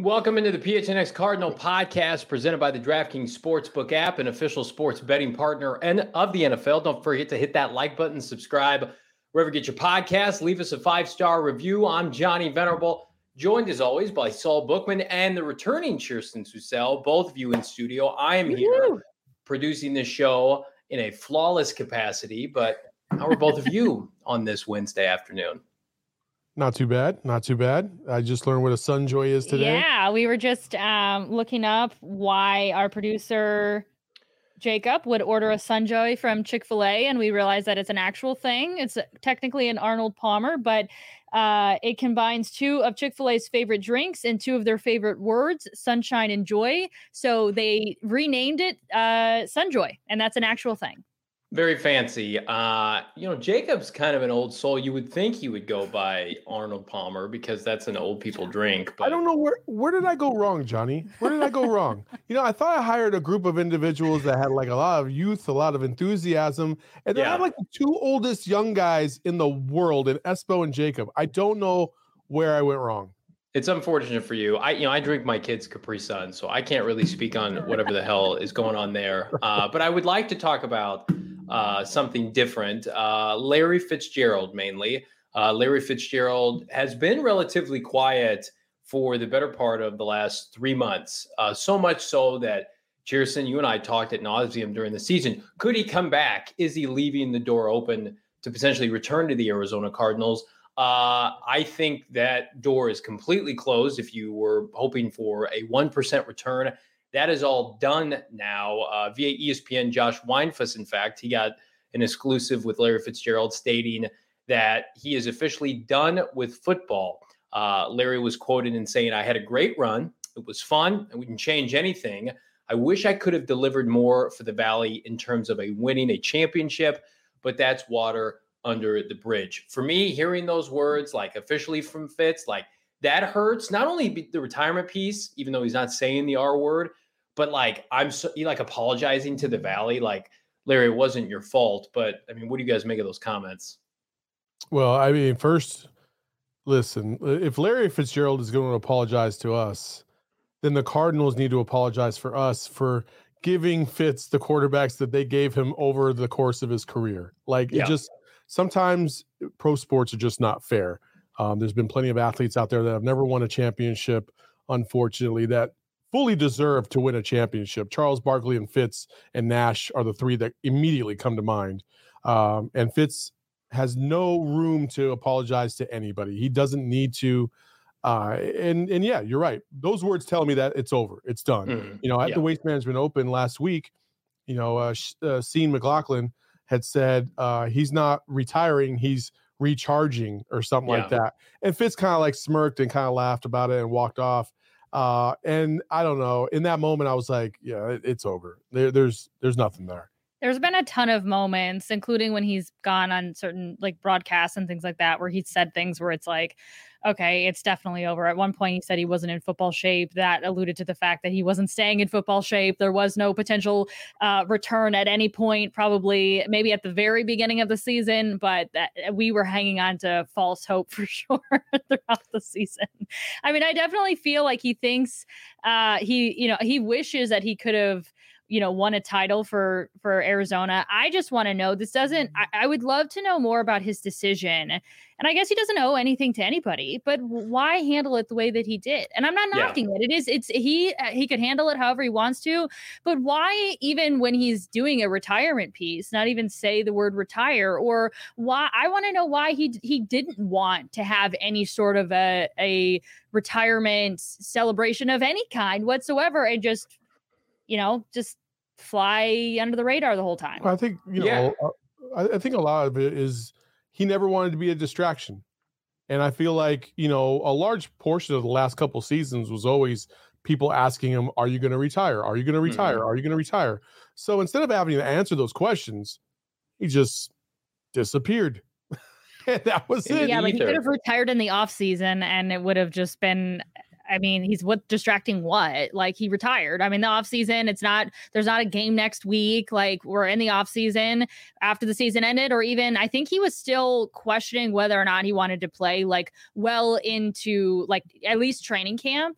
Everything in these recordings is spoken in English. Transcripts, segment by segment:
Welcome into the PHNX Cardinal podcast presented by the DraftKings Sportsbook app, an official sports betting partner of the NFL. Don't forget to hit that like button, subscribe wherever you get your podcasts. Leave us a 5-star review. I'm Johnny Venerable, joined as always by Saul Bookman and the returning Kirsten Susel, both of you in studio. I am here producing this show in a flawless capacity, but how are both of you on this Wednesday afternoon? Not too bad. Not too bad. I just learned what a Sunjoy is today. Yeah, we were just looking up why our producer Jacob would order a Sunjoy from Chick-fil-A, and we realized that it's an actual thing. It's technically an Arnold Palmer, but it combines two of Chick-fil-A's favorite drinks and two of their favorite words, sunshine and joy. So they renamed it Sunjoy, and that's an actual thing. Very fancy. Jacob's kind of an old soul. You would think he would go by Arnold Palmer because that's an old people drink. But I don't know where did I go wrong, Johnny? Where did I go wrong? I thought I hired a group of individuals that had like a lot of youth, a lot of enthusiasm, and then I have like the two oldest young guys in the world, in Espo and Jacob. I don't know where I went wrong. It's unfortunate for you. I drink my kids' Capri Sun, so I can't really speak on whatever the hell is going on there. But I would like to talk about something different. Larry Fitzgerald, mainly. Larry Fitzgerald has been relatively quiet for the better part of the last 3 months. So much so that, Cheerson, you and I talked at nauseum during the season. Could he come back? Is he leaving the door open to potentially return to the Arizona Cardinals? I think that door is completely closed. If you were hoping for a 1% return, that is all done now. Via ESPN, Josh Weinfuss, in fact, he got an exclusive with Larry Fitzgerald stating that he is officially done with football. Larry was quoted in saying, "I had a great run. It was fun, and we can change anything. I wish I could have delivered more for the Valley in terms of winning a championship, but that's water under the bridge." For me, hearing those words, like officially from Fitz, like that hurts. Not only the retirement piece, even though he's not saying the R word, but like apologizing to the Valley, like, Larry, it wasn't your fault. But I mean, what do you guys make of those comments? Well, I mean, first, listen, if Larry Fitzgerald is going to apologize to us, then the Cardinals need to apologize for us for giving Fitz the quarterbacks that they gave him over the course of his career. It just, sometimes pro sports are just not fair. There's been plenty of athletes out there that have never won a championship, unfortunately, that fully deserve to win a championship. Charles Barkley and Fitz and Nash are the three that immediately come to mind. And Fitz has no room to apologize to anybody. He doesn't need to. And yeah, you're right. Those words tell me that it's over. It's done. At the Waste Management Open last week, Sean McLaughlin had said he's not retiring, he's recharging or something like that. And Fitz kind of like smirked and kind of laughed about it and walked off. And I don't know, in that moment, I was like, yeah, it's over. There's nothing there. There's been a ton of moments, including when he's gone on certain like broadcasts and things like that, where he's said things where it's like, okay, it's definitely over. At one point, he said he wasn't in football shape. That alluded to the fact that he wasn't staying in football shape. There was no potential return at any point, probably maybe at the very beginning of the season, but we were hanging on to false hope for sure throughout the season. I mean, I definitely feel like he thinks he wishes that he could have won a title for Arizona. I just want to know, I would love to know more about his decision. And I guess he doesn't owe anything to anybody, but why handle it the way that he did? And I'm not knocking it. He could handle it however he wants to, but why, even when he's doing a retirement piece, not even say the word retire? Or why? I want to know why he didn't want to have any sort of a retirement celebration of any kind whatsoever, and just fly under the radar the whole time. I think, I think a lot of it is he never wanted to be a distraction. And I feel like, a large portion of the last couple seasons was always people asking him, are you going to retire? Are you going to retire? Are you going to retire? So instead of having to answer those questions, he just disappeared. And that was it. Yeah, but he could have retired in the off season and it would have just been, I mean, he's distracting what? Like, he retired. I mean, the off season, there's not a game next week. Like, we're in the off season after the season ended, or even I think he was still questioning whether or not he wanted to play like well into like at least training camp.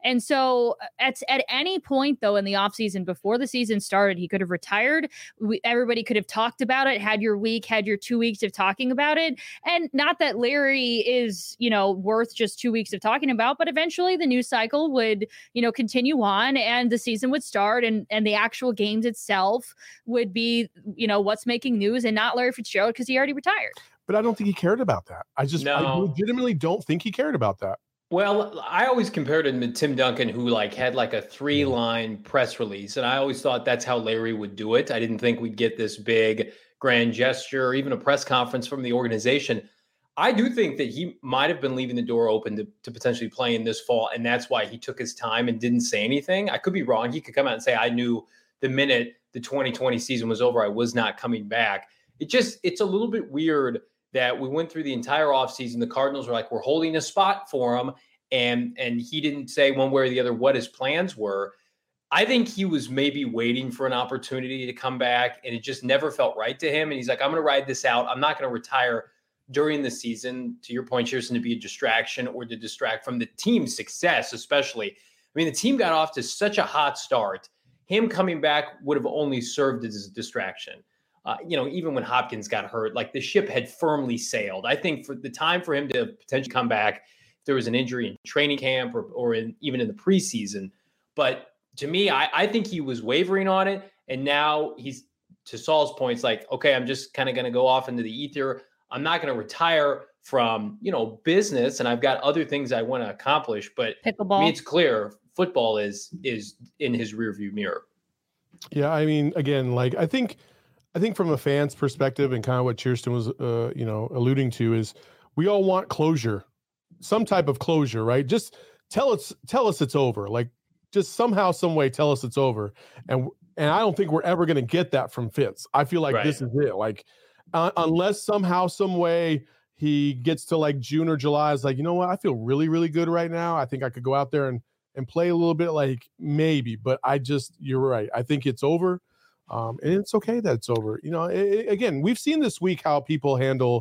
And so at any point, though, in the offseason, before the season started, he could have retired. Everybody could have talked about it, had your week, had your 2 weeks of talking about it. And not that Larry is, worth just 2 weeks of talking about, but eventually the news cycle would, continue on and the season would start and the actual games itself would be, what's making news and not Larry Fitzgerald because he already retired. But I don't think he cared about that. I legitimately don't think he cared about that. Well, I always compared him to Tim Duncan, who had a 3-line press release. And I always thought that's how Larry would do it. I didn't think we'd get this big grand gesture or even a press conference from the organization. I do think that he might have been leaving the door open to potentially playing this fall. And that's why he took his time and didn't say anything. I could be wrong. He could come out and say, I knew the minute the 2020 season was over, I was not coming back. It's a little bit weird that we went through the entire offseason. The Cardinals were like, we're holding a spot for him. And he didn't say one way or the other what his plans were. I think he was maybe waiting for an opportunity to come back, and it just never felt right to him. And he's like, I'm going to ride this out. I'm not going to retire during the season. To your point, Kirsten, to be a distraction or to distract from the team's success, especially. I mean, the team got off to such a hot start. Him coming back would have only served as a distraction. Even when Hopkins got hurt, the ship had firmly sailed. I think for the time for him to potentially come back, if there was an injury in training camp or even in the preseason. But to me, I think he was wavering on it. And now he's, to Saul's points, okay, I'm just kind of going to go off into the ether. I'm not going to retire from, business. And I've got other things I want to accomplish. But pickleball. I mean, it's clear football is in his rearview mirror. Yeah. I mean, again, I think from a fan's perspective and kind of what Kirsten was, alluding to is we all want closure, some type of closure, right? Just tell us it's over. Just somehow, some way, tell us it's over. And I don't think we're ever going to get that from Fitz. I feel like This is it. Unless somehow, some way he gets to June or July, is you know what? I feel really, really good right now. I think I could go out there and play a little bit, maybe, but you're right. I think it's over. And it's okay that it's over. Again, we've seen this week how people handle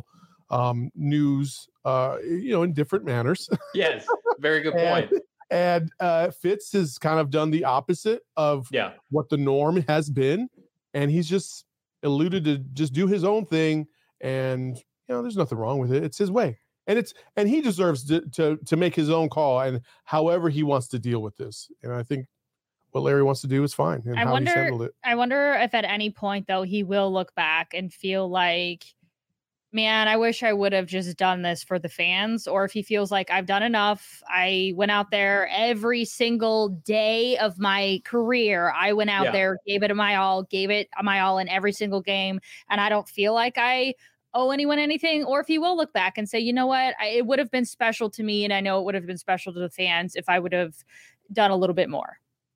news, in different manners. Yes, very good point. And Fitz has kind of done the opposite of what the norm has been, and he's just alluded to just do his own thing. And there's nothing wrong with it. It's his way, and he deserves to make his own call and however he wants to deal with this. And I think what Larry wants to do is fine. And he's handled it. I wonder if at any point, though, he will look back and feel like, man, I wish I would have just done this for the fans. Or if he feels like I've done enough. I went out there every single day of my career. I went out there, gave it my all in every single game. And I don't feel like I owe anyone anything. Or if he will look back and say, you know what, it would have been special to me. And I know it would have been special to the fans if I would have done a little bit more.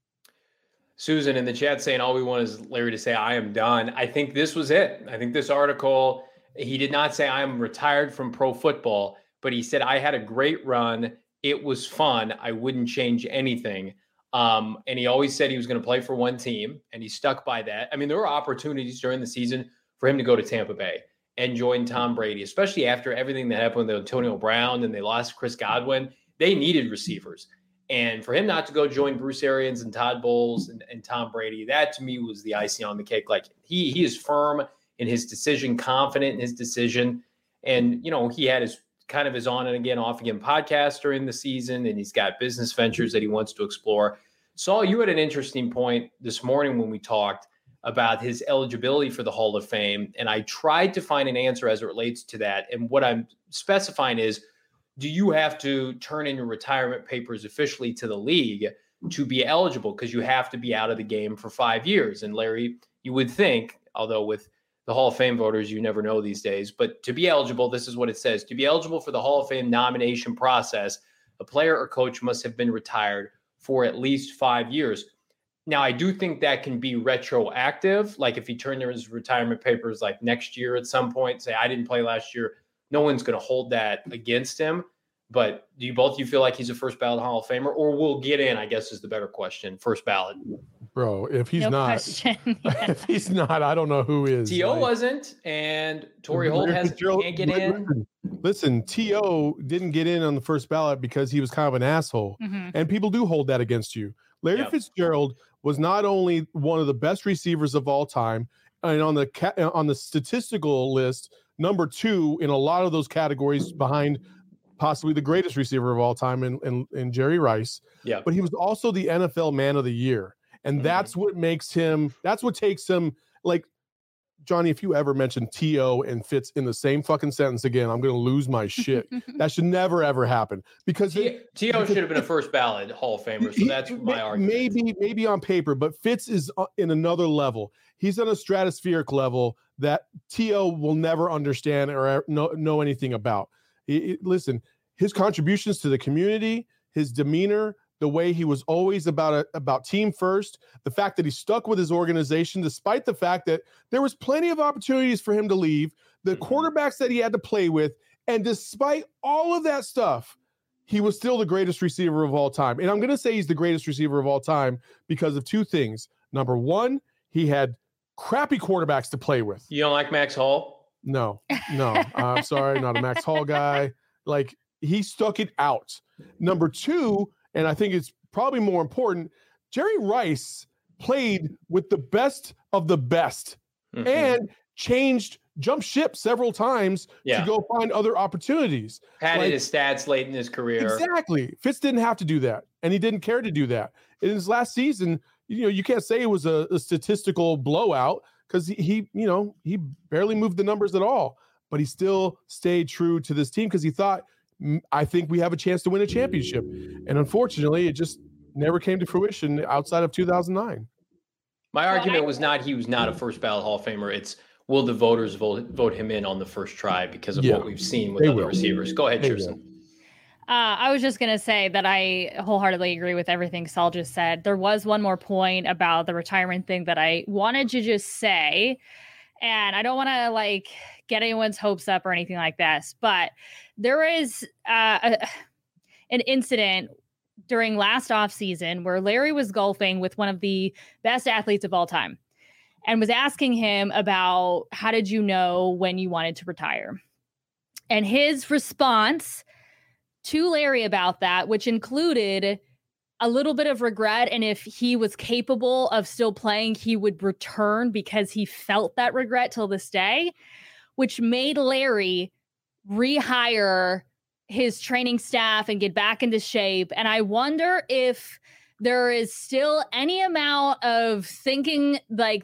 Susan in the chat saying all we want is Larry to say, I am done. I think this was it. I think this article, he did not say I am retired from pro football, but he said, I had a great run. It was fun. I wouldn't change anything. And he always said he was going to play for one team, and he stuck by that. I mean, there were opportunities during the season for him to go to Tampa Bay and join Tom Brady, especially after everything that happened with Antonio Brown and they lost Chris Godwin. They needed receivers. And for him not to go join Bruce Arians and Todd Bowles and Tom Brady, that to me was the icing on the cake. He is firm in his decision, confident in his decision. And, he had his on and again, off again podcast during the season, and he's got business ventures that he wants to explore. Saul, you had an interesting point this morning when we talked about his eligibility for the Hall of Fame. And I tried to find an answer as it relates to that. And what I'm specifying is, do you have to turn in your retirement papers officially to the league to be eligible? Because you have to be out of the game for 5 years. And Larry, you would think, although with the Hall of Fame voters, you never know these days, but to be eligible, this is what it says. To be eligible for the Hall of Fame nomination process, a player or coach must have been retired for at least 5 years. Now, I do think that can be retroactive. If he turned in his retirement papers next year at some point, say, I didn't play last year, no one's going to hold that against him. But do you feel like he's a first ballot Hall of Famer, or will get in? I guess is the better question. First ballot, bro. If he's not, yeah. if he's not, I don't know who is. T.O. wasn't, and Torrey Holt can't get in. Listen, T.O. didn't get in on the first ballot because he was kind of an asshole, and people do hold that against you. Larry Fitzgerald was not only one of the best receivers of all time, and on the statistical list, number 2 in a lot of those categories behind possibly the greatest receiver of all time in Jerry Rice. Yeah. But he was also the NFL Man of the Year. And that's what takes him, like, Johnny, if you ever mention T.O. and Fitz in the same fucking sentence again, I'm going to lose my shit. That should never, ever happen. Because T.O. should have been a first ballot Hall of Famer. So that's my argument. Maybe on paper, but Fitz is in another level. He's on a stratospheric level that T.O. will never understand or know anything about. Listen, his contributions to the community, his demeanor, the way he was always about team first, the fact that he stuck with his organization, despite the fact that there was plenty of opportunities for him to leave, the quarterbacks that he had to play with, and despite all of that stuff, he was still the greatest receiver of all time. And I'm going to say he's the greatest receiver of all time because of 2 things. Number 1, he had crappy quarterbacks to play with. You don't like Max Hall? No. I'm sorry, not a Max Hall guy. Like, he stuck it out. Number 2, and I think it's probably more important, Jerry Rice played with the best of the best and jumped ship several times to go find other opportunities. Padded his stats late in his career. Exactly. Fitz didn't have to do that, and he didn't care to do that. In his last season, you can't say it was a statistical blowout because he barely moved the numbers at all, but he still stayed true to this team because he thought, I think we have a chance to win a championship. And unfortunately, it just never came to fruition outside of 2009. My argument was not he was not a first ballot Hall of Famer. It's will the voters vote him in on the first try because of what we've seen with other receivers. Go ahead, Kirsten. I was just going to say that I wholeheartedly agree with everything Saul just said. There was one more point about the retirement thing that I wanted to just say, and I don't want to get anyone's hopes up or anything like this, but there is an incident during last offseason where Larry was golfing with one of the best athletes of all time and was asking him about how did you know when you wanted to retire? And his response to Larry about that, which included a little bit of regret, and if he was capable of still playing, he would return because he felt that regret till this day, which made Larry rehire his training staff and get back into shape. And I wonder if there is still any amount of thinking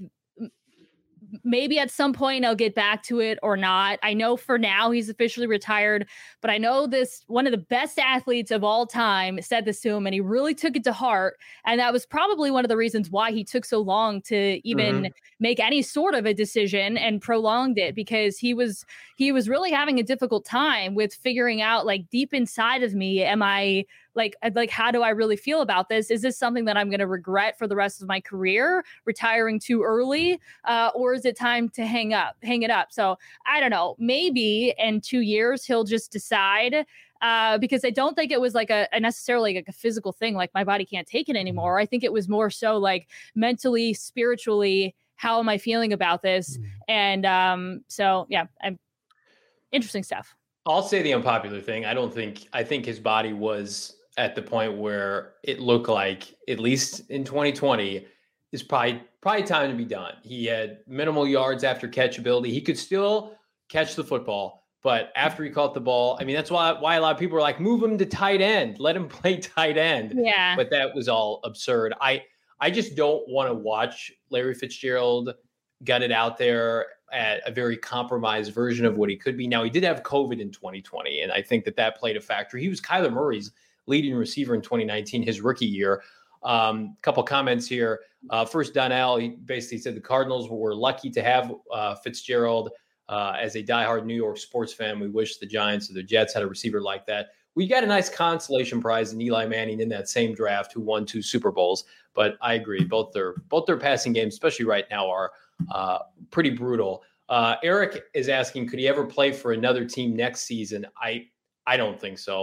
maybe at some point I'll get back to it or not. I know for now he's officially retired, but I know one of the best athletes of all time said this to him and he really took it to heart. And that was probably one of the reasons why he took so long to even make any sort of a decision and prolonged it, because he was really having a difficult time with figuring out deep inside of me, am I how do I really feel about this? Is this something that I'm going to regret for the rest of my career, retiring too early? Or is it time to hang it up? So I don't know, maybe in 2 years, he'll just decide, because I don't think it was necessarily a physical thing. My body can't take it anymore. I think it was more so mentally, spiritually, how am I feeling about this? And interesting stuff. I'll say the unpopular thing. I think his body was at the point where it looked like, at least in 2020, is probably time to be done. He had minimal yards after catchability. He could still catch the football, but after he caught the ball, that's why a lot of people are like, move him to tight end, let him play tight end. Yeah. But that was all absurd. I just don't want to watch Larry Fitzgerald gut it out there at a very compromised version of what he could be. Now, he did have COVID in 2020, and I think that played a factor. He was Kyler Murray's leading receiver in 2019, his rookie year. Couple comments here. First, Donnell, he basically said the Cardinals were lucky to have Fitzgerald. As a diehard New York sports fan, we wish the Giants or the Jets had a receiver like that. We got a nice consolation prize in Eli Manning in that same draft, who won 2 Super Bowls. But I agree, both their passing games, especially right now, are pretty brutal. Eric is asking, could he ever play for another team next season? I don't think so.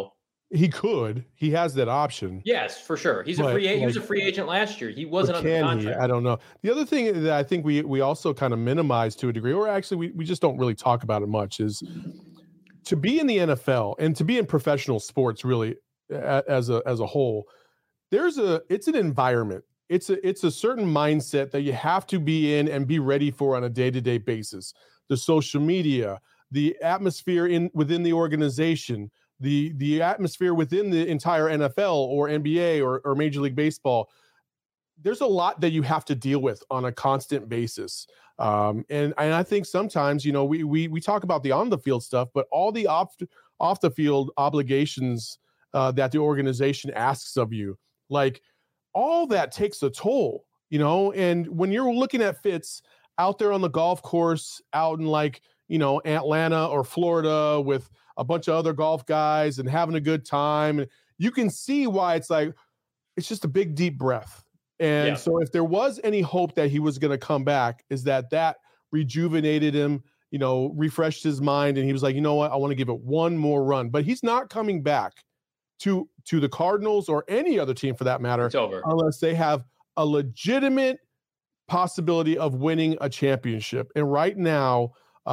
He could. He has that option. Yes, for sure. He was a free agent last year. He wasn't under contract. I don't know. The other thing that I think we also kind of minimize to a degree, or actually we just don't really talk about it much, is to be in the NFL and to be in professional sports really as a whole. It's an environment. It's a certain mindset that you have to be in and be ready for on a day-to-day basis. The social media, the atmosphere within the organization, the atmosphere within the entire NFL or NBA or Major League Baseball. There's a lot that you have to deal with on a constant basis. And I think sometimes, we talk about the on the field stuff, but all the off the field obligations that the organization asks of you, like all that takes a toll, and when you're looking at Fitz out there on the golf course, out in Atlanta or Florida with a bunch of other golf guys and having a good time, and you can see why it's just a big, deep breath. And so if there was any hope that he was going to come back, is that rejuvenated him, refreshed his mind. And he was like, you know what, I want to give it one more run, but he's not coming back to the Cardinals or any other team for that matter. It's over. Unless they have a legitimate possibility of winning a championship. And right now,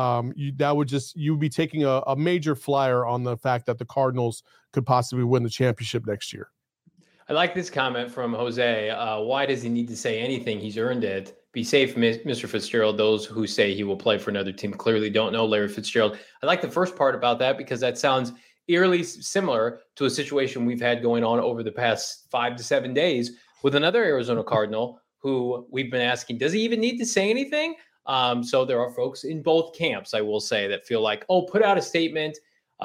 you'd be taking a major flyer on the fact that the Cardinals could possibly win the championship next year. I like this comment from Jose. Why does he need to say anything? He's earned it. Be safe, Mr. Fitzgerald. Those who say he will play for another team clearly don't know Larry Fitzgerald. I like the first part about that because that sounds eerily similar to a situation we've had going on over the past 5 to 7 days with another Arizona Cardinal who we've been asking, does he even need to say anything? So there are folks in both camps, I will say, that feel like, put out a statement,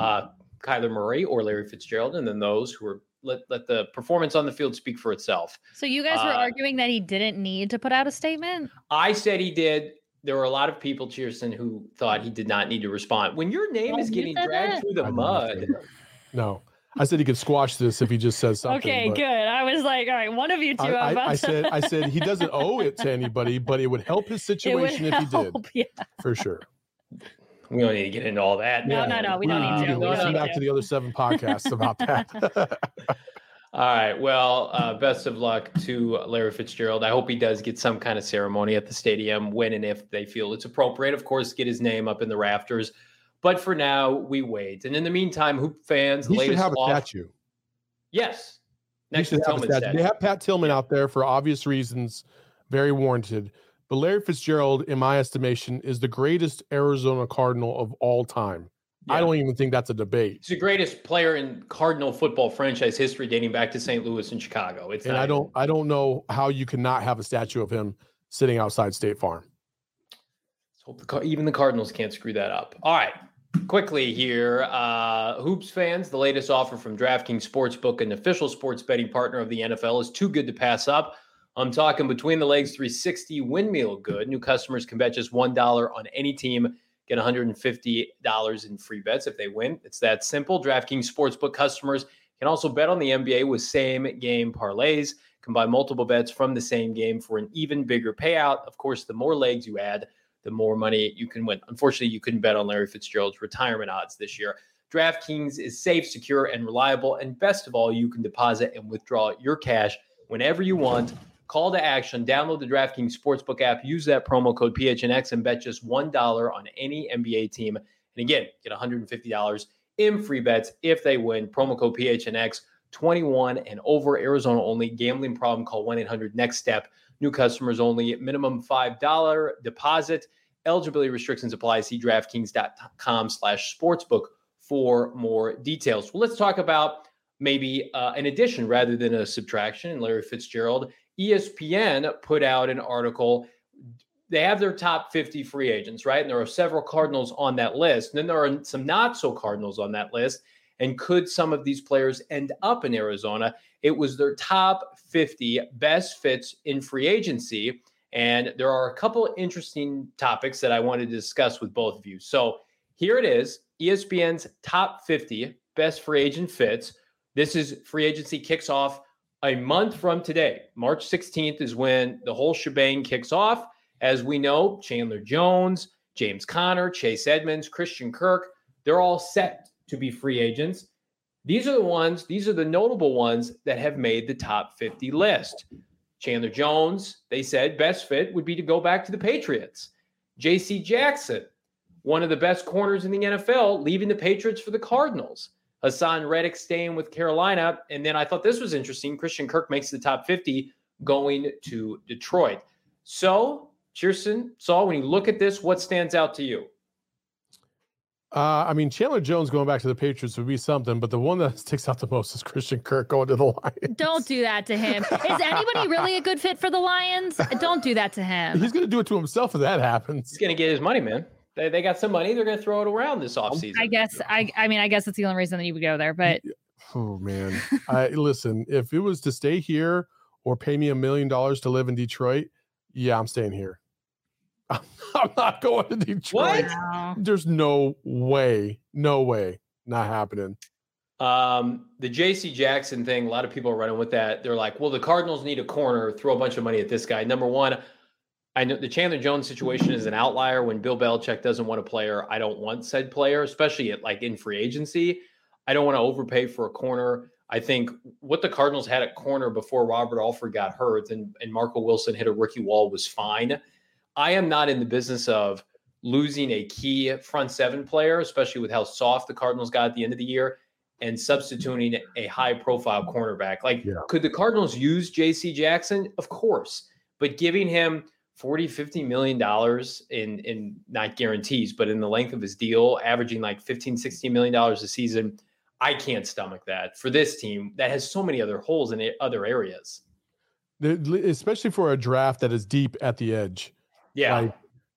Kyler Murray or Larry Fitzgerald, and then those who are let the performance on the field speak for itself. So you guys were arguing that he didn't need to put out a statement? I said he did. There were a lot of people, Cheerson, who thought he did not need to respond. When your name is getting dragged through the mud. No. I said he could squash this if he just says something. Okay, good. I was like, all right, one of you two. I said he doesn't owe it to anybody, but it would help his situation if he did. Yeah. For sure. We don't need to get into all that. No, we don't need to. Listen back to the other 7 podcasts about that. All right. Well, best of luck to Larry Fitzgerald. I hope he does get some kind of ceremony at the stadium when and if they feel it's appropriate. Of course, get his name up in the rafters. But for now, we wait. And in the meantime, Hoop fans, he should have a statue. Yes. Next to Tillman's statue. They have Pat Tillman out there for obvious reasons, very warranted. But Larry Fitzgerald, in my estimation, is the greatest Arizona Cardinal of all time. Yeah. I don't even think that's a debate. He's the greatest player in Cardinal football franchise history, dating back to St. Louis and Chicago. I don't know how you cannot have a statue of him sitting outside State Farm. Let's hope even the Cardinals can't screw that up. All right, quickly here, Hoops fans, the latest offer from DraftKings Sportsbook, an official sports betting partner of the NFL, is too good to pass up. I'm talking between the legs 360 windmill good. New customers can bet just $1 on any team, get $150 in free bets if they win. It's that simple. DraftKings Sportsbook customers can also bet on the NBA with same game parlays. Combine multiple bets from the same game for an even bigger payout. Of course, the more legs you add, the more money you can win. Unfortunately, you couldn't bet on Larry Fitzgerald's retirement odds this year. DraftKings is safe, secure, and reliable. And best of all, you can deposit and withdraw your cash whenever you want. Call to action. Download the DraftKings Sportsbook app. Use that promo code PHNX and bet just $1 on any NBA team. And again, get $150 in free bets if they win. Promo code PHNX, 21 and over, Arizona only. Gambling problem, call 1-800-NEXT-STEP. New customers only. Minimum $5 deposit. Eligibility restrictions apply. See DraftKings.com/sportsbook for more details. Well, let's talk about maybe an addition rather than a subtraction. And Larry Fitzgerald, ESPN put out an article. They have their top 50 free agents, right? And there are several Cardinals on that list. And then there are some not so Cardinals on that list. And could some of these players end up in Arizona? It was their top 50 best fits in free agency. And there are a couple interesting topics that I wanted to discuss with both of you. So here it is, ESPN's top 50 best free agent fits. This is free agency kicks off a month from today. March 16th is when the whole shebang kicks off. As we know, Chandler Jones, James Conner, Chase Edmonds, Christian Kirk, they're all set to be free agents. These are the notable ones that have made the top 50 list. Chandler Jones, they said best fit would be to go back to the Patriots. J.C. Jackson, one of the best corners in the NFL, leaving the Patriots for the Cardinals. Hassan Reddick staying with Carolina. And then I thought this was interesting. Christian Kirk makes the top 50 going to Detroit. So, Chierstin, Saul, when you look at this, what stands out to you? I mean, Chandler Jones going back to the Patriots would be something, but the one that sticks out the most is Christian Kirk going to the Lions. Don't do that to him. Is anybody really a good fit for the Lions? Don't do that to him. He's going to do it to himself if that happens. He's going to get his money, man. They got some money. They're going to throw it around this offseason. I guess. I mean, I guess it's the only reason that you would go there. But oh man, listen. If it was to stay here or pay me $1 million to live in Detroit, yeah, I'm staying here. I'm not going to Detroit. Wow. There's no way, not happening. The J.C. Jackson thing, a lot of people are running with that. They're like, well, the Cardinals need a corner, throw a bunch of money at this guy. Number one, I know the Chandler Jones situation is an outlier. When Bill Belichick doesn't want a player, I don't want said player, especially in free agency. I don't want to overpay for a corner. I think what the Cardinals had at corner before Robert Alford got hurt and Marco Wilson hit a rookie wall was fine. I am not in the business of losing a key front seven player, especially with how soft the Cardinals got at the end of the year, and substituting a high-profile cornerback. Could the Cardinals use J.C. Jackson? Of course. But giving him $40-50 million in not guarantees, but in the length of his deal, averaging $15-16 million a season, I can't stomach that for this team that has so many other holes in other areas. Especially for a draft that is deep at the edge. Yeah.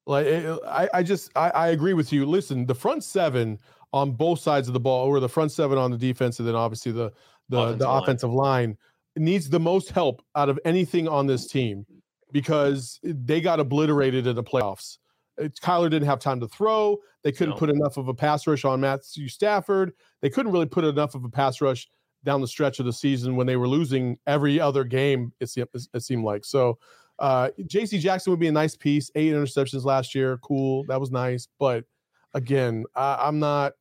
I agree with you. Listen, the front seven on both sides of the ball, or the front seven on the defense, and then obviously the offensive line needs the most help out of anything on this team because they got obliterated in the playoffs. Kyler didn't have time to throw. They couldn't put enough of a pass rush on Matthew Stafford. They couldn't really put enough of a pass rush down the stretch of the season when they were losing every other game, it seemed like. So J.C. Jackson would be a nice piece. 8 interceptions last year. Cool. That was nice. But again, I'm not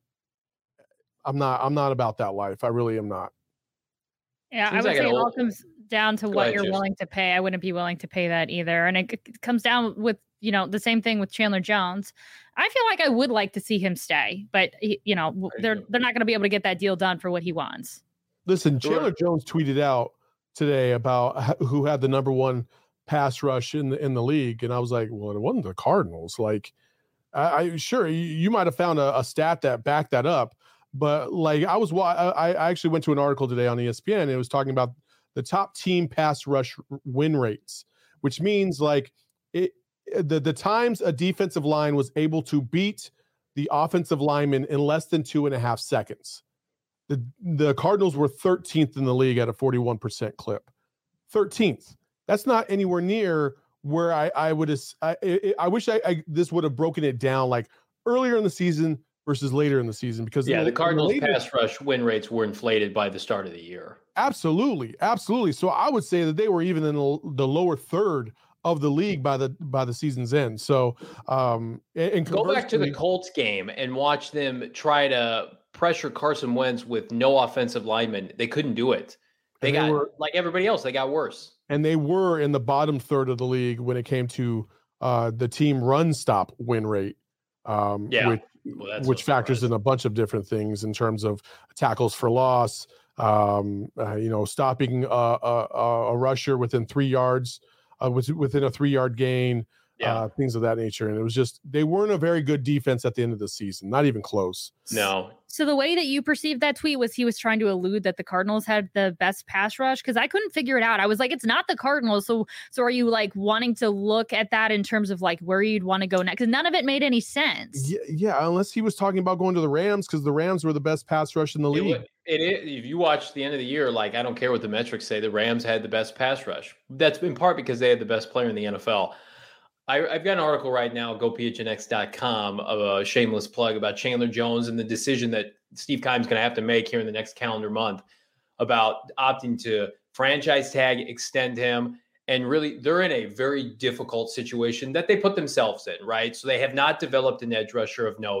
about that life. I really am not. Yeah, I would say it all comes down to what you're willing to pay. I wouldn't be willing to pay that either. And it comes down with, the same thing with Chandler Jones. I feel like I would like to see him stay, but they're not going to be able to get that deal done for what he wants. Listen, Chandler Jones tweeted out today about who had the number one pass rush in the league, and I was like, well, it wasn't the Cardinals. I sure you might have found a stat that backed that up, but I actually went to an article today on ESPN, and it was talking about the top team pass rush win rates, which means the times a defensive line was able to beat the offensive lineman in less than 2.5 seconds. The Cardinals were 13th in the league at a 41% clip. 13th. That's not anywhere near where I wish this would have broken it down earlier in the season versus later in the season, because the Cardinals pass rush win rates were inflated by the start of the year. Absolutely. So I would say that they were even in the lower third of the league by the season's end. So and go back to the Colts game and watch them try to pressure Carson Wentz with no offensive linemen. They couldn't do it. They got like everybody else. They got worse. And they were in the bottom third of the league when it came to the team run stop win rate. Which factors in a bunch of different things in terms of tackles for loss, stopping a rusher within 3 yards, within a 3-yard gain, things of that nature. And it was just, they weren't a very good defense at the end of the season, not even close. No. So the way that you perceived that tweet was he was trying to allude that the Cardinals had the best pass rush? Because I couldn't figure it out. I was like, it's not the Cardinals. So are you wanting to look at that in terms of where you'd want to go next? Because none of it made any sense. Yeah, unless he was talking about going to the Rams, because the Rams were the best pass rush in the league. It is. If you watch the end of the year, I don't care what the metrics say, the Rams had the best pass rush. That's in part because they had the best player in the NFL. I've got an article right now, gophnx.com, of a shameless plug about Chandler Jones and the decision that Steve Keim's going to have to make here in the next calendar month about opting to franchise tag, extend him. And really, they're in a very difficult situation that they put themselves in, right? So they have not developed an edge rusher of note.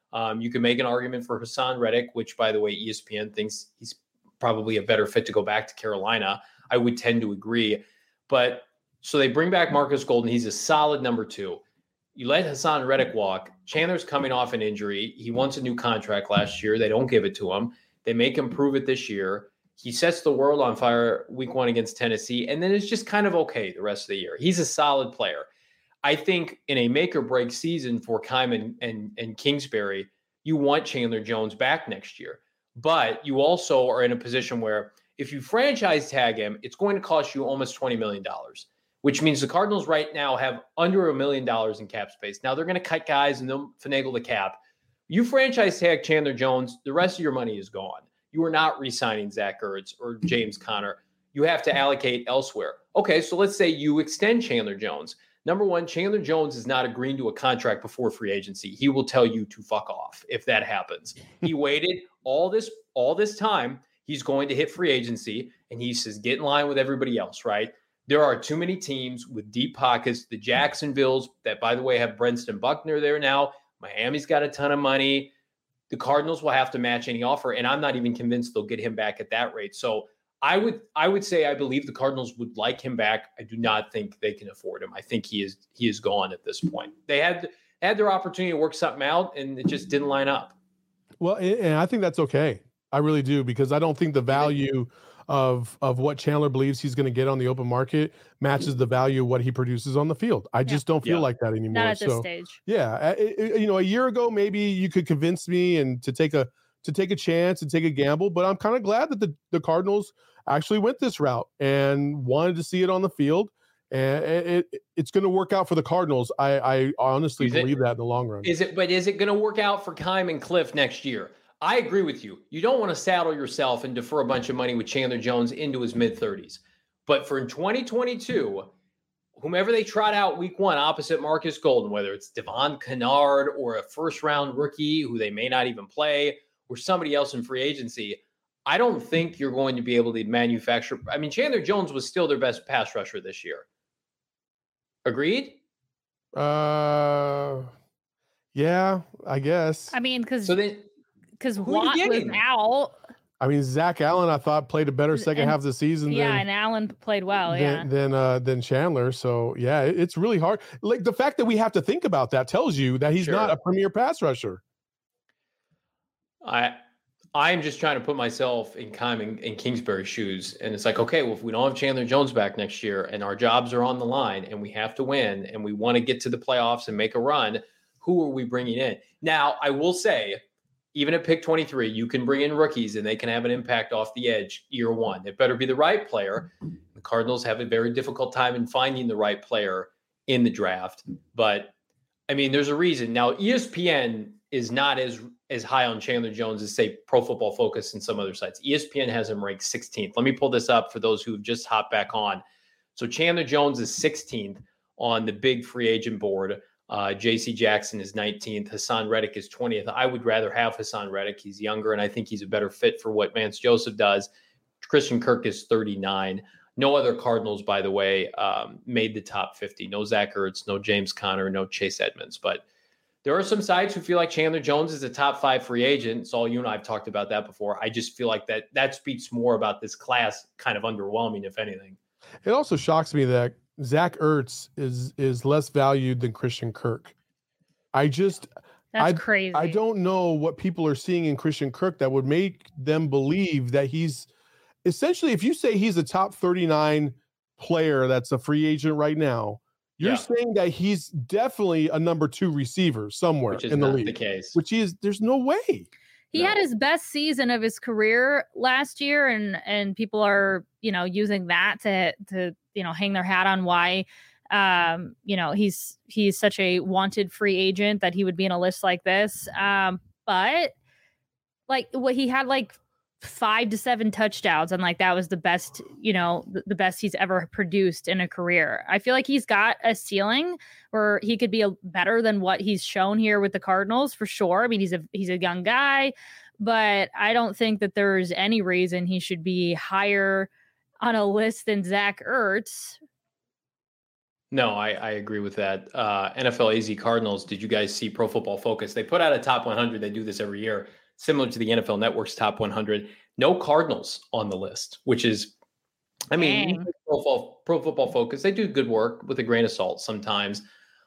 You can make an argument for Hassan Reddick, which, by the way, ESPN thinks he's probably a better fit to go back to Carolina. I would tend to agree. But so they bring back Marcus Golden. He's a solid number 2. You let Hassan Reddick walk. Chandler's coming off an injury. He wants a new contract last year. They don't give it to him. They make him prove it this year. He sets the world on fire week 1 against Tennessee, and then it's just kind of okay the rest of the year. He's a solid player. I think in a make or break season for Keim and Kingsbury, you want Chandler Jones back next year. But you also are in a position where if you franchise tag him, it's going to cost you almost $20 million, which means the Cardinals right now have under $1 million in cap space. Now they're going to cut guys and they'll finagle the cap. You franchise tag Chandler Jones, the rest of your money is gone. You are not re-signing Zach Ertz or James Conner. You have to allocate elsewhere. Okay, so let's say you extend Chandler Jones. Number one, Chandler Jones is not agreeing to a contract before free agency. He will tell you to fuck off if that happens. He waited all this time. He's going to hit free agency, and he says, get in line with everybody else, right? There are too many teams with deep pockets. The Jacksonvilles, that, by the way, have Brenston Buckner there now. Miami's got a ton of money. The Cardinals will have to match any offer, and I'm not even convinced they'll get him back at that rate. So I would say I believe the Cardinals would like him back. I do not think they can afford him. I think he is gone at this point. They had their opportunity to work something out, and it just didn't line up. Well, and I think that's okay. I really do, because I don't think the value of what Chandler believes he's going to get on the open market matches the value of what he produces on the field. I just don't feel like that anymore. Not at this stage. Yeah, a year ago maybe you could convince me and to take a chance and take a gamble, but I'm kind of glad that the Cardinals actually went this route and wanted to see it on the field, and it's going to work out for the Cardinals. I honestly believe that in the long run. Is it going to work out for Keim and Cliff next year? I agree with you. You don't want to saddle yourself and defer a bunch of money with Chandler Jones into his mid-30s. But for 2022, whomever they trot out week 1 opposite Marcus Golden, whether it's Devon Kennard or a first-round rookie who they may not even play, or somebody else in free agency, I don't think you're going to be able to manufacture. I mean, Chandler Jones was still their best pass rusher this year. Agreed? Yeah, I guess. I mean, because Watt was out. I mean, Zach Allen, I thought, played a better second half of the season. And Allen played well. Than Chandler. So yeah, it's really hard. Like, the fact that we have to think about that tells you that he's not a premier pass rusher. I'm just trying to put myself in Keim and Kingsbury's shoes. And it's like, okay, well, if we don't have Chandler Jones back next year and our jobs are on the line and we have to win and we want to get to the playoffs and make a run, who are we bringing in? Now, I will say, even at pick 23, you can bring in rookies and they can have an impact off the edge year 1. It better be the right player. The Cardinals have a very difficult time in finding the right player in the draft. But, I mean, there's a reason. Now, ESPN is not as high on Chandler Jones as, say, Pro Football Focus and some other sites. ESPN has him ranked 16th. Let me pull this up for those who have just hopped back on. So Chandler Jones is 16th on the big free agent board. J.C. Jackson is 19th. Hassan Reddick is 20th. I would rather have Hassan Reddick. He's younger, and I think he's a better fit for what Vance Joseph does. Christian Kirk is 39. No other Cardinals, by the way, made the top 50. No Zach Ertz, no James Conner, no Chase Edmonds. But there are some sides who feel like Chandler Jones is a top 5 free agent. So you and I have talked about that before. I just feel like that speaks more about this class kind of underwhelming, if anything. It also shocks me that Zach Ertz is less valued than Christian Kirk. That's crazy. I don't know what people are seeing in Christian Kirk that would make them believe that he's essentially, if you say he's a top 39 player that's a free agent right now, you're saying that he's definitely a number 2 receiver somewhere in the league. The case. There's no way. He had his best season of his career last year, and people are, using that to hang their hat on why, he's such a wanted free agent that he would be in a list like this. But like what he had, like 5 to 7 touchdowns, and like that was the best, the best he's ever produced in a career. I feel like he's got a ceiling where he could be better than what he's shown here with the Cardinals for sure. I mean, he's a young guy, but I don't think that there's any reason he should be higher on a list than Zach Ertz. No, I agree with that. NFL AZ Cardinals, did you guys see Pro Football Focus? They put out a top 100. They do this every year, similar to the NFL Network's top 100. No Cardinals on the list, which is, I mean, Dang. Pro Football Focus, they do good work with a grain of salt sometimes.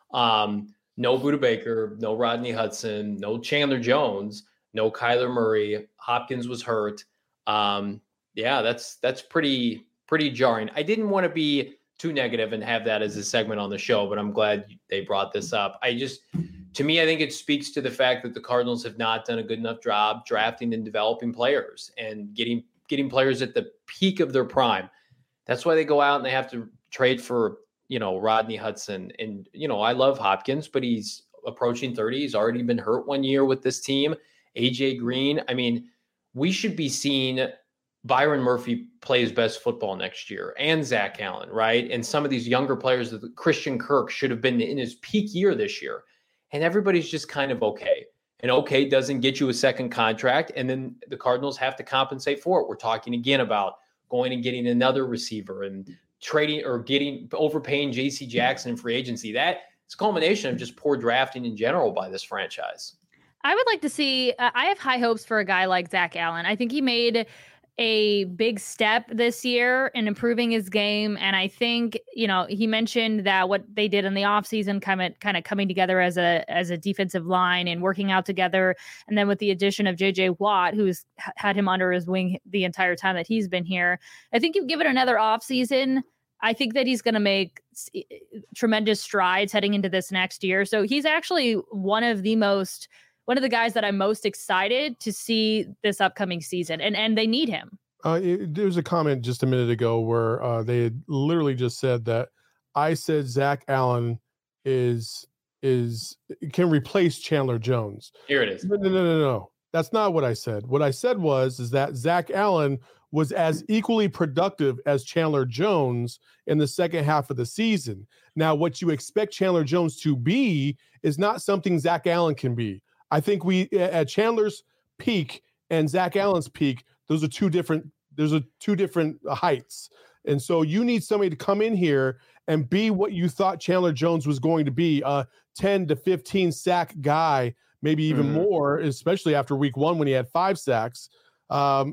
No Budda Baker, no Rodney Hudson, no Chandler Jones, no Kyler Murray. Hopkins was hurt. Yeah, that's pretty jarring. I didn't want to be too negative and have that as a segment on the show, but I'm glad they brought this up. To me, I think it speaks to the fact that the Cardinals have not done a good enough job drafting and developing players and getting players at the peak of their prime. That's why they go out and they have to trade for, Rodney Hudson. And, I love Hopkins, but he's approaching 30. He's already been hurt 1 year with this team. AJ Green. I mean, we should be seeing Byron Murphy play his best football next year, and Zach Allen, right? And some of these younger players, Christian Kirk should have been in his peak year this year. And everybody's just kind of okay. And okay doesn't get you a second contract, and then the Cardinals have to compensate for it. We're talking again about going and getting another receiver and trading or overpaying J.C. Jackson in free agency. That is a culmination of just poor drafting in general by this franchise. I would like to see, I have high hopes for a guy like Zach Allen. I think he made a big step this year in improving his game. And I think, he mentioned that what they did in the offseason kind of coming together as a defensive line and working out together. And then with the addition of JJ Watt, who's had him under his wing the entire time that he's been here, I think you give it another offseason. I think that he's going to make tremendous strides heading into this next year. So he's actually one of the guys that I'm most excited to see this upcoming season, and they need him. There was a comment just a minute ago where they had literally just said that I said Zach Allen can replace Chandler Jones. Here it is. No. That's not what I said. What I said is that Zach Allen was as equally productive as Chandler Jones in the second half of the season. Now, what you expect Chandler Jones to be is not something Zach Allen can be. I think we at Chandler's peak and Zach Allen's peak, those are two different heights. And so you need somebody to come in here and be what you thought Chandler Jones was going to be, a 10 to 15 sack guy, maybe even more, especially after week 1 when he had 5 sacks. A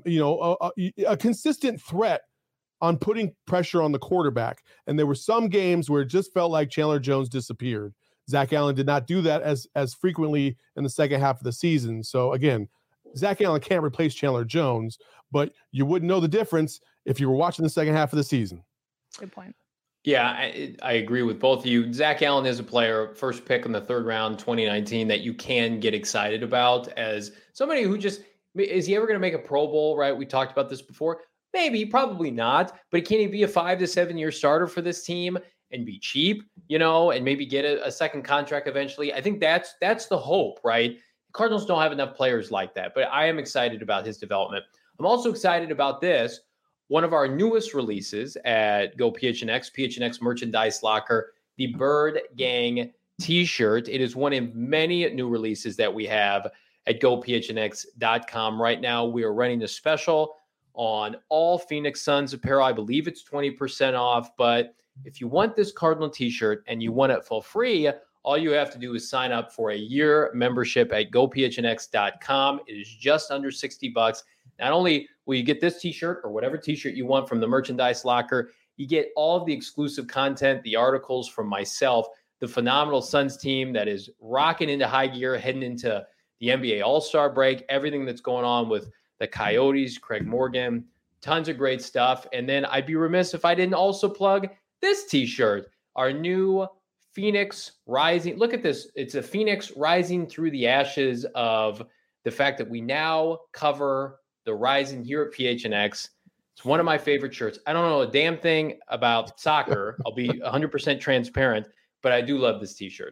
consistent threat on putting pressure on the quarterback. And there were some games where it just felt like Chandler Jones disappeared. Zach Allen did not do that as frequently in the second half of the season. So again, Zach Allen can't replace Chandler Jones, but you wouldn't know the difference if you were watching the second half of the season. Good point. Yeah, I agree with both of you. Zach Allen is a player, first pick in the 3rd round, 2019, that you can get excited about as somebody who just, is he ever going to make a Pro Bowl, right? We talked about this before. Maybe, probably not, but can he be a 5 to 7 year starter for this team and be cheap, and maybe get a second contract eventually? I think that's the hope, right? The Cardinals don't have enough players like that, but I am excited about his development. I'm also excited about this. One of our newest releases at Go PHNX Merchandise Locker, the Bird Gang t-shirt. It is one of many new releases that we have at GoPHNX.com. Right now, we are running a special on all Phoenix Suns apparel. I believe it's 20% off, but if you want this Cardinal t-shirt and you want it for free, all you have to do is sign up for a year membership at GoPHNX.com. It is just under $60. Not only will you get this t-shirt or whatever t-shirt you want from the merchandise locker, you get all of the exclusive content, the articles from myself, the phenomenal Suns team that is rocking into high gear, heading into the NBA All-Star break, everything that's going on with the Coyotes, Craig Morgan, tons of great stuff. And then I'd be remiss if I didn't also plug this t-shirt, our new Phoenix Rising. Look at this. It's a Phoenix rising through the ashes of the fact that we now cover the Rising here at PHNX. It's one of my favorite shirts. I don't know a damn thing about soccer. I'll be 100% transparent, but I do love this t-shirt.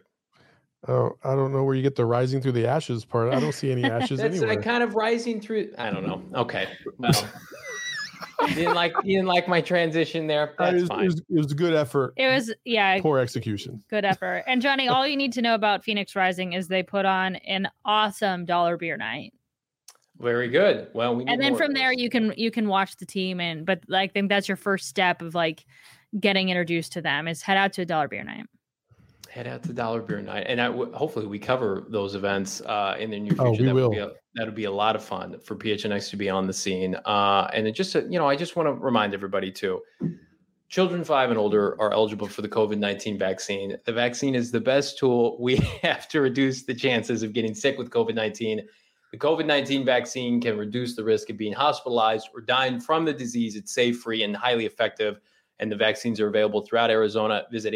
Oh, I don't know where you get the rising through the ashes part. I don't see any ashes That's anywhere. kind of rising through. I don't know. Okay. Well, you didn't like my transition there. That's fine. It was a good effort. It was, yeah. Poor execution. Good effort. And Johnny, all you need to know about Phoenix Rising is they put on an awesome dollar beer night. Very good. Well, and then from there you can watch the team, but I think that's your first step of getting introduced to them is head out to a Dollar Beer Night. Head out to Dollar Beer Night, and hopefully we cover those events in the near future. Oh, we will. That would be a lot of fun for PHNX to be on the scene. And it just, I just want to remind everybody too, children 5 and older are eligible for the COVID-19 vaccine. The vaccine is the best tool we have to reduce the chances of getting sick with COVID-19. The COVID-19 vaccine can reduce the risk of being hospitalized or dying from the disease. It's safe, free, and highly effective. And the vaccines are available throughout Arizona. Visit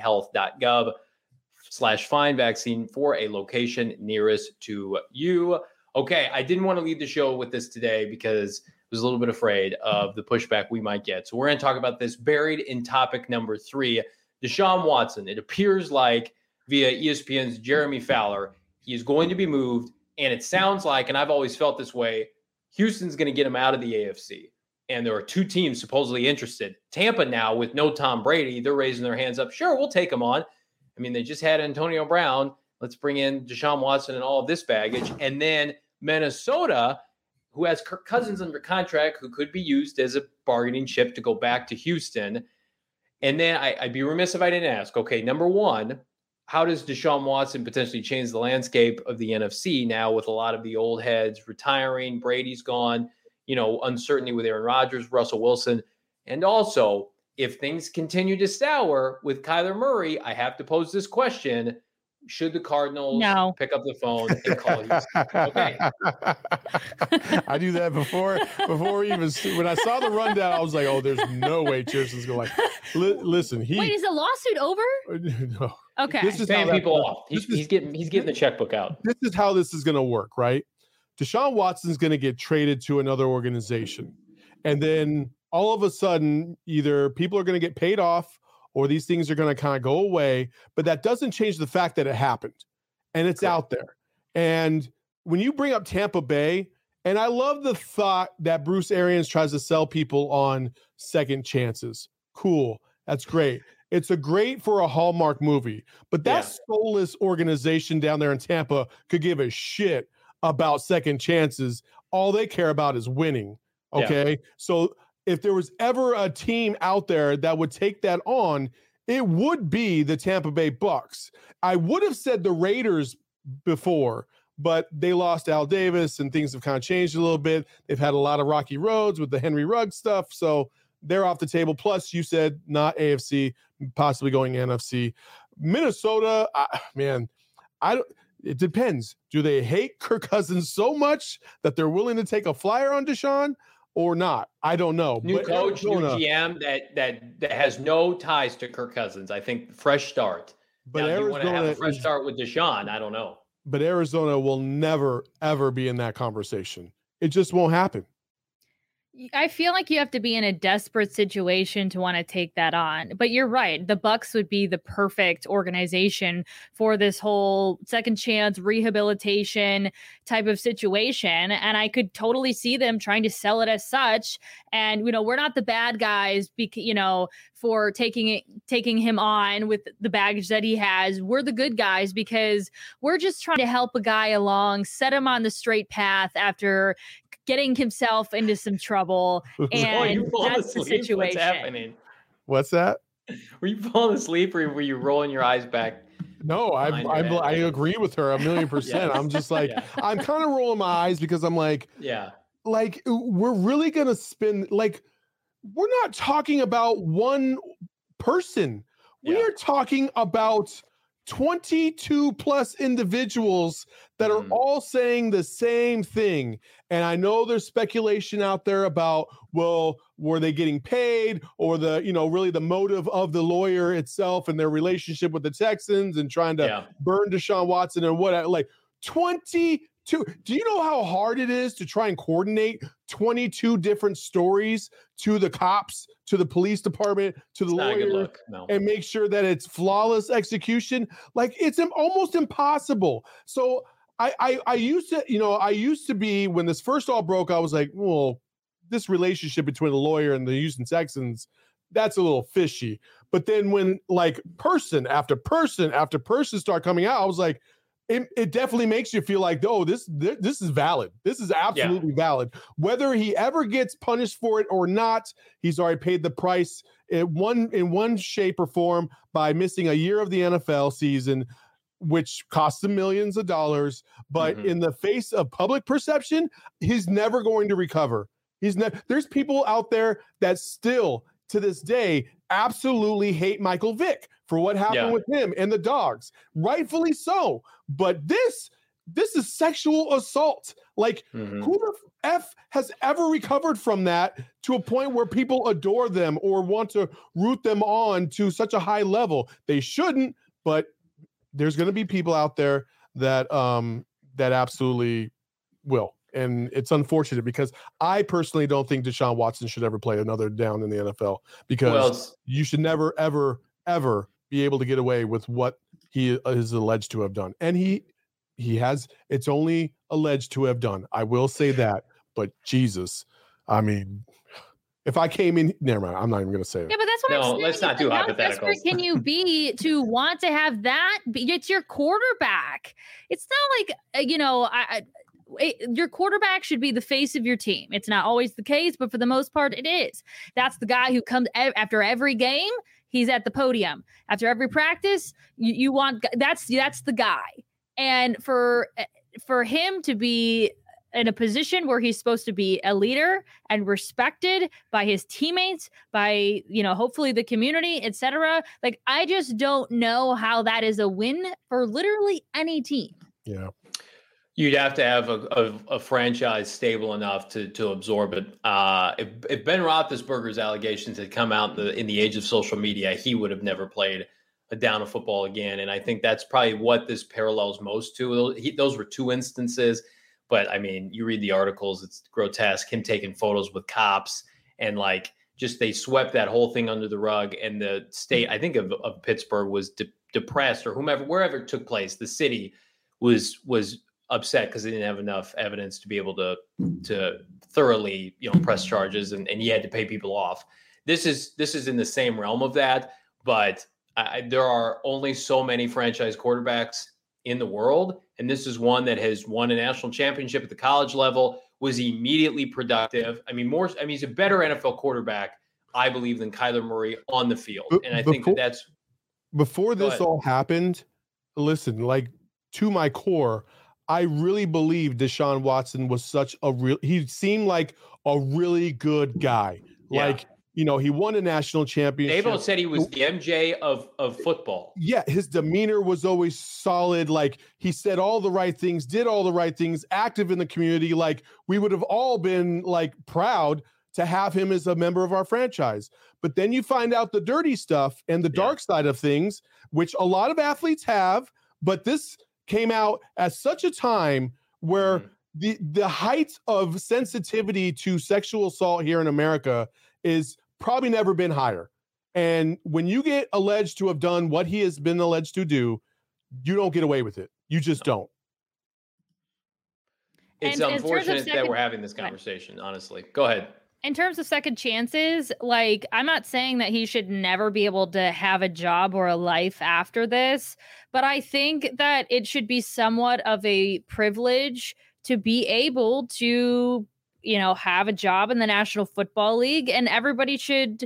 azhealth.gov/find vaccine for a location nearest to you. Okay, I didn't want to leave the show with this today because I was a little bit afraid of the pushback we might get. So we're going to talk about this buried in topic number 3, Deshaun Watson. It appears like via ESPN's Jeremy Fowler, he is going to be moved. And it sounds like, and I've always felt this way, Houston's going to get him out of the AFC. And there are 2 teams supposedly interested. Tampa now with no Tom Brady, they're raising their hands up. Sure, we'll take him on. I mean, they just had Antonio Brown. Let's bring in Deshaun Watson and all of this baggage. And then Minnesota, who has Kirk Cousins under contract, who could be used as a bargaining chip to go back to Houston. And then I'd be remiss if I didn't ask, okay, number one, how does Deshaun Watson potentially change the landscape of the NFC now with a lot of the old heads retiring, Brady's gone, uncertainty with Aaron Rodgers, Russell Wilson. And also, if things continue to sour with Kyler Murray, I have to pose this question. Should the Cardinals pick up the phone and call Houston? Okay. I do that before even when I saw the rundown, I was like, oh, there's no way Cheerson's going listen. Wait, is the lawsuit over? No. Okay. This is paying people off. He's getting the checkbook out. This is how this is going to work, right? Deshaun Watson's going to get traded to another organization. And then all of a sudden, either people are going to get paid off or these things are going to kind of go away, but that doesn't change the fact that it happened and it's out there. And when you bring up Tampa Bay, and I love the thought that Bruce Arians tries to sell people on second chances. Cool. That's great. It's great for a Hallmark movie, but that soulless organization down there in Tampa could give a shit about second chances. All they care about is winning. Okay. Yeah. So if there was ever a team out there that would take that on, it would be the Tampa Bay Bucks. I would have said the Raiders before, but they lost Al Davis and things have kind of changed a little bit. They've had a lot of rocky roads with the Henry Ruggs stuff. So they're off the table. Plus, you said not AFC, possibly going NFC. Minnesota, it depends. Do they hate Kirk Cousins so much that they're willing to take a flyer on Deshaun or not? I don't know. New coach, new GM that has no ties to Kirk Cousins. I think fresh start. But now, you want to have a fresh start with Deshaun? I don't know. But Arizona will never, ever be in that conversation. It just won't happen. I feel like you have to be in a desperate situation to want to take that on. But you're right. The Bucks would be the perfect organization for this whole second chance rehabilitation type of situation. And I could totally see them trying to sell it as such. And, we're not the bad guys, for taking him on with the baggage that he has. We're the good guys because we're just trying to help a guy along, set him on the straight path after getting himself into some trouble. And that's the situation. What's happening? What's that? Were you falling asleep or were you rolling your eyes back? No, I agree with her 1,000,000%. Yes. I'm just like, I'm kind of rolling my eyes because I'm like, we're really going to spend, we're not talking about one person. We are talking about 22 plus individuals that are all saying the same thing. And I know there's speculation out there about, well, were they getting paid or really the motive of the lawyer itself and their relationship with the Texans and trying to burn Deshaun Watson and what, 22. Do you know how hard it is to try and coordinate 22 different stories to the cops, to the police department, to the lawyer, and make sure that it's flawless execution? It's almost impossible. So I used to be, when this first all broke, I was like, well, this relationship between the lawyer and the Houston Texans, that's a little fishy. But then when person after person after person start coming out, I was like, it definitely makes you feel like, oh, this is valid. This is absolutely valid. Whether he ever gets punished for it or not, he's already paid the price. in one shape or form by missing a year of the NFL season, which costs him millions of dollars. But in the face of public perception, he's never going to recover. There's people out there that still to this day absolutely hate Michael Vick for what happened with him and the dogs, rightfully so. But this is sexual assault. Like, who the F has ever recovered from that to a point where people adore them or want to root them on to such a high level? They shouldn't, but there's going to be people out there that that absolutely will. And it's unfortunate because I personally don't think Deshaun Watson should ever play another down in the NFL, because you should never, ever, ever be able to get away with what he is alleged to have done. And he has, it's only alleged to have done. I will say that, but Jesus, I mean, if I came in, never mind, I'm not even going to say it. Yeah, but that's what I'm saying. Let's not do hypotheticals. How desperate can you be to want to have that? It's your quarterback. It's not like, your quarterback should be the face of your team. It's not always the case, but for the most part, it is. That's the guy who comes after every game. He's at the podium after every practice. You want that's the guy. And for him to be in a position where he's supposed to be a leader and respected by his teammates, by, hopefully the community, etc. Like, I just don't know how that is a win for literally any team. Yeah. You'd have to have a franchise stable enough to absorb it. If Ben Roethlisberger's allegations had come out in the age of social media, he would have never played a down of football again. And I think that's probably what this parallels most to. Those were two instances. But I mean, you read the articles, it's grotesque. Him taking photos with cops and they swept that whole thing under the rug. And the state, I think of Pittsburgh, was depressed, or wherever it took place. The city was upset because they didn't have enough evidence to be able to thoroughly press charges, and he had to pay people off. This is in the same realm of that, but there are only so many franchise quarterbacks in the world, and this is one that has won a national championship at the college level, was immediately productive. He's a better NFL quarterback, I believe, than Kyler Murray on the field. And I think that's before this all happened. Listen, to my core, I really believe Deshaun Watson was he seemed like a really good guy. Yeah. He won a national championship. Dabo said he was the MJ of football. Yeah, his demeanor was always solid. He said all the right things, did all the right things, active in the community. We would have all been proud to have him as a member of our franchise. But then you find out the dirty stuff and the dark side of things, which a lot of athletes have, but this came out at such a time where the height of sensitivity to sexual assault here in America is probably never been higher. And when you get alleged to have done what he has been alleged to do, you don't get away with it. You just don't. It's unfortunate that we're having this conversation, honestly. Go ahead. In terms of second chances, I'm not saying that he should never be able to have a job or a life after this, but I think that it should be somewhat of a privilege to be able to, have a job in the National Football League, and everybody should,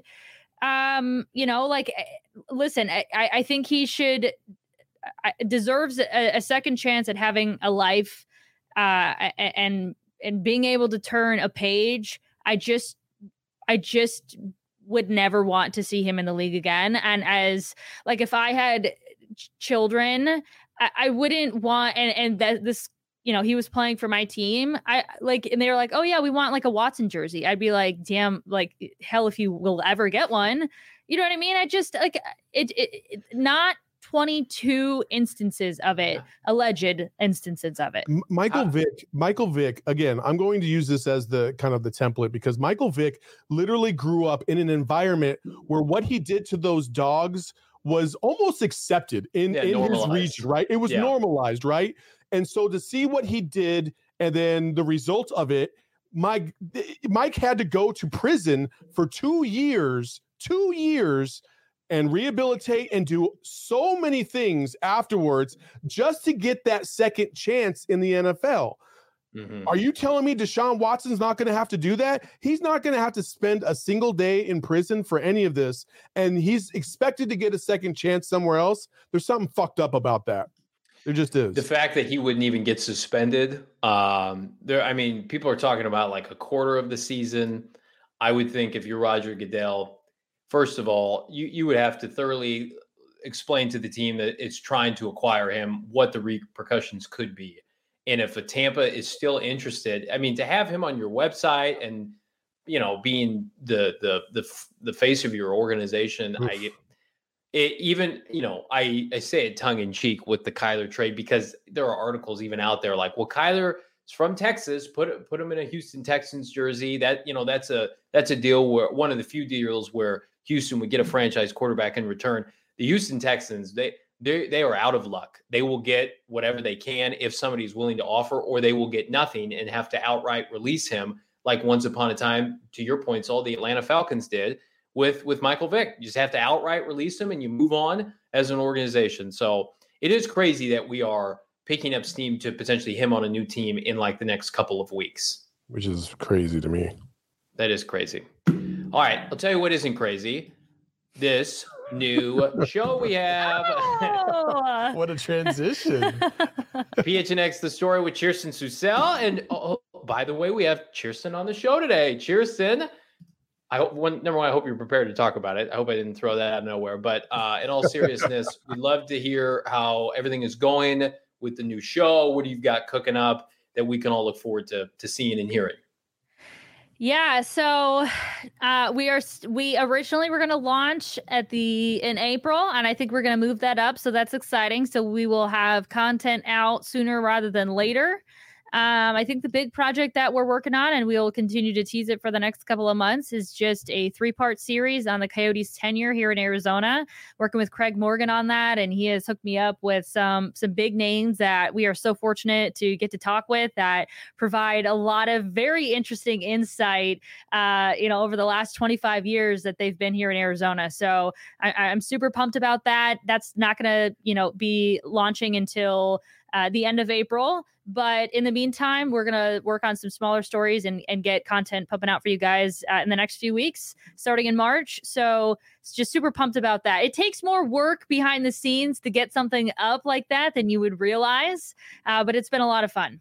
listen, I think he deserves a second chance at having a life, and being able to turn a page. I just would never want to see him in the league again. And as if I had children, I wouldn't want, and that this, he was playing for my team. And they were like, oh yeah, we want a Watson jersey. I'd be like, damn, hell, if you will ever get one, you know what I mean? I just it not 22 instances of it, alleged instances of it. Michael Vick, again, I'm going to use this as the kind of the template, because Michael Vick literally grew up in an environment where what he did to those dogs was almost accepted in his region, right? It was normalized, right? And so to see what he did and then the result of it, Mike had to go to prison for 2 years, and rehabilitate and do so many things afterwards just to get that second chance in the NFL. Mm-hmm. Are you telling me Deshaun Watson's not going to have to do that? He's not going to have to spend a single day in prison for any of this, and he's expected to get a second chance somewhere else. There's something fucked up about that. There just is. The fact that he wouldn't even get suspended. People are talking about like a quarter of the season. I would think if you're Roger Goodell, first of all, you would have to thoroughly explain to the team that it's trying to acquire him what the repercussions could be. And if a Tampa is still interested, I mean, to have him on your website and, being the face of your organization, Oof. I say it tongue in cheek with the Kyler trade, because there are articles even out there like, well, Kyler is from Texas, put him in a Houston Texans jersey. That's a deal where one of the few deals where Houston would get a franchise quarterback in return. The Houston Texans, they are out of luck. They will get whatever they can if somebody's willing to offer, or they will get nothing and have to outright release him, like once upon a time, to your point, all the Atlanta Falcons did with Michael Vick. You just have to outright release him and you move on as an organization. So it is crazy that we are picking up steam to potentially him on a new team in like the next couple of weeks. Which is crazy to me. That is crazy. All right, I'll tell you what isn't crazy. This new show we have. What a transition. PHNX The Story with Kirsten Susel. And by the way, we have Kirsten on the show today. Kirsten, I hope you're prepared to talk about it. I hope I didn't throw that out of nowhere. But in all seriousness, we'd love to hear how everything is going with the new show. What do you got cooking up that we can all look forward to seeing and hearing? Yeah, so we originally were going to launch in April, and I think we're going to move that up. So that's exciting. So we will have content out sooner rather than later. I think the big project that we're working on, and we'll continue to tease it for the next couple of months, is just a 3-part series on the Coyotes' tenure here in Arizona. Working with Craig Morgan on that, and he has hooked me up with some big names that we are so fortunate to get to talk with that provide a lot of very interesting insight, over the last 25 years that they've been here in Arizona. So I'm super pumped about that. That's not going to, be launching until the end of April. But in the meantime, we're going to work on some smaller stories and get content pumping out for you guys in the next few weeks, starting in March. So it's just super pumped about that. It takes more work behind the scenes to get something up like that than you would realize. But it's been a lot of fun.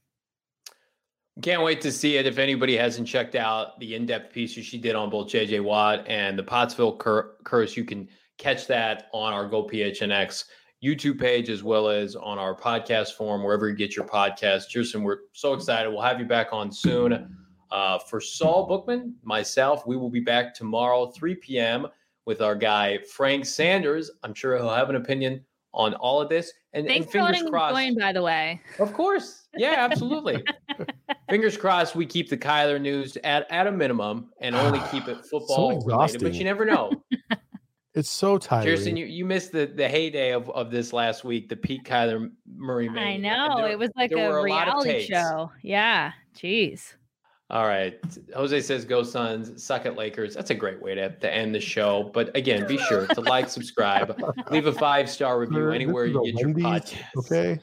Can't wait to see it. If anybody hasn't checked out the in-depth piece she did on both J.J. Watt and the Pottsville curse, you can catch that on our Go PHNX YouTube page, as well as on our podcast form, wherever you get your podcast. Kirsten, we're so excited. We'll have you back on soon. For Saul Bookman, myself, we will be back tomorrow, 3 p.m. with our guy, Frank Sanders. I'm sure he'll have an opinion on all of this. And thanks for letting me join, by the way. Of course. Yeah, absolutely. Fingers crossed we keep the Kyler news at a minimum and only keep it football related, but you never know. It's so tiring. Kirsten, you missed the heyday of this last week, the Pete Kyler Murray mania. I know. It was like a reality show. Yeah. Jeez. All right. Jose says, go Suns, suck at Lakers. That's a great way to end the show. But again, be sure to like, subscribe, leave a 5-star review anywhere you get your podcast. Okay.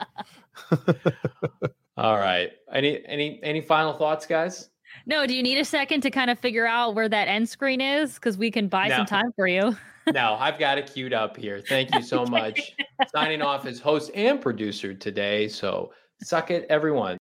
All right. Any final thoughts, guys? No, do you need a second to kind of figure out where that end screen is? Because we can buy some time for you. No, I've got it queued up here. Thank you so much. Signing off as host and producer today. So suck it, everyone.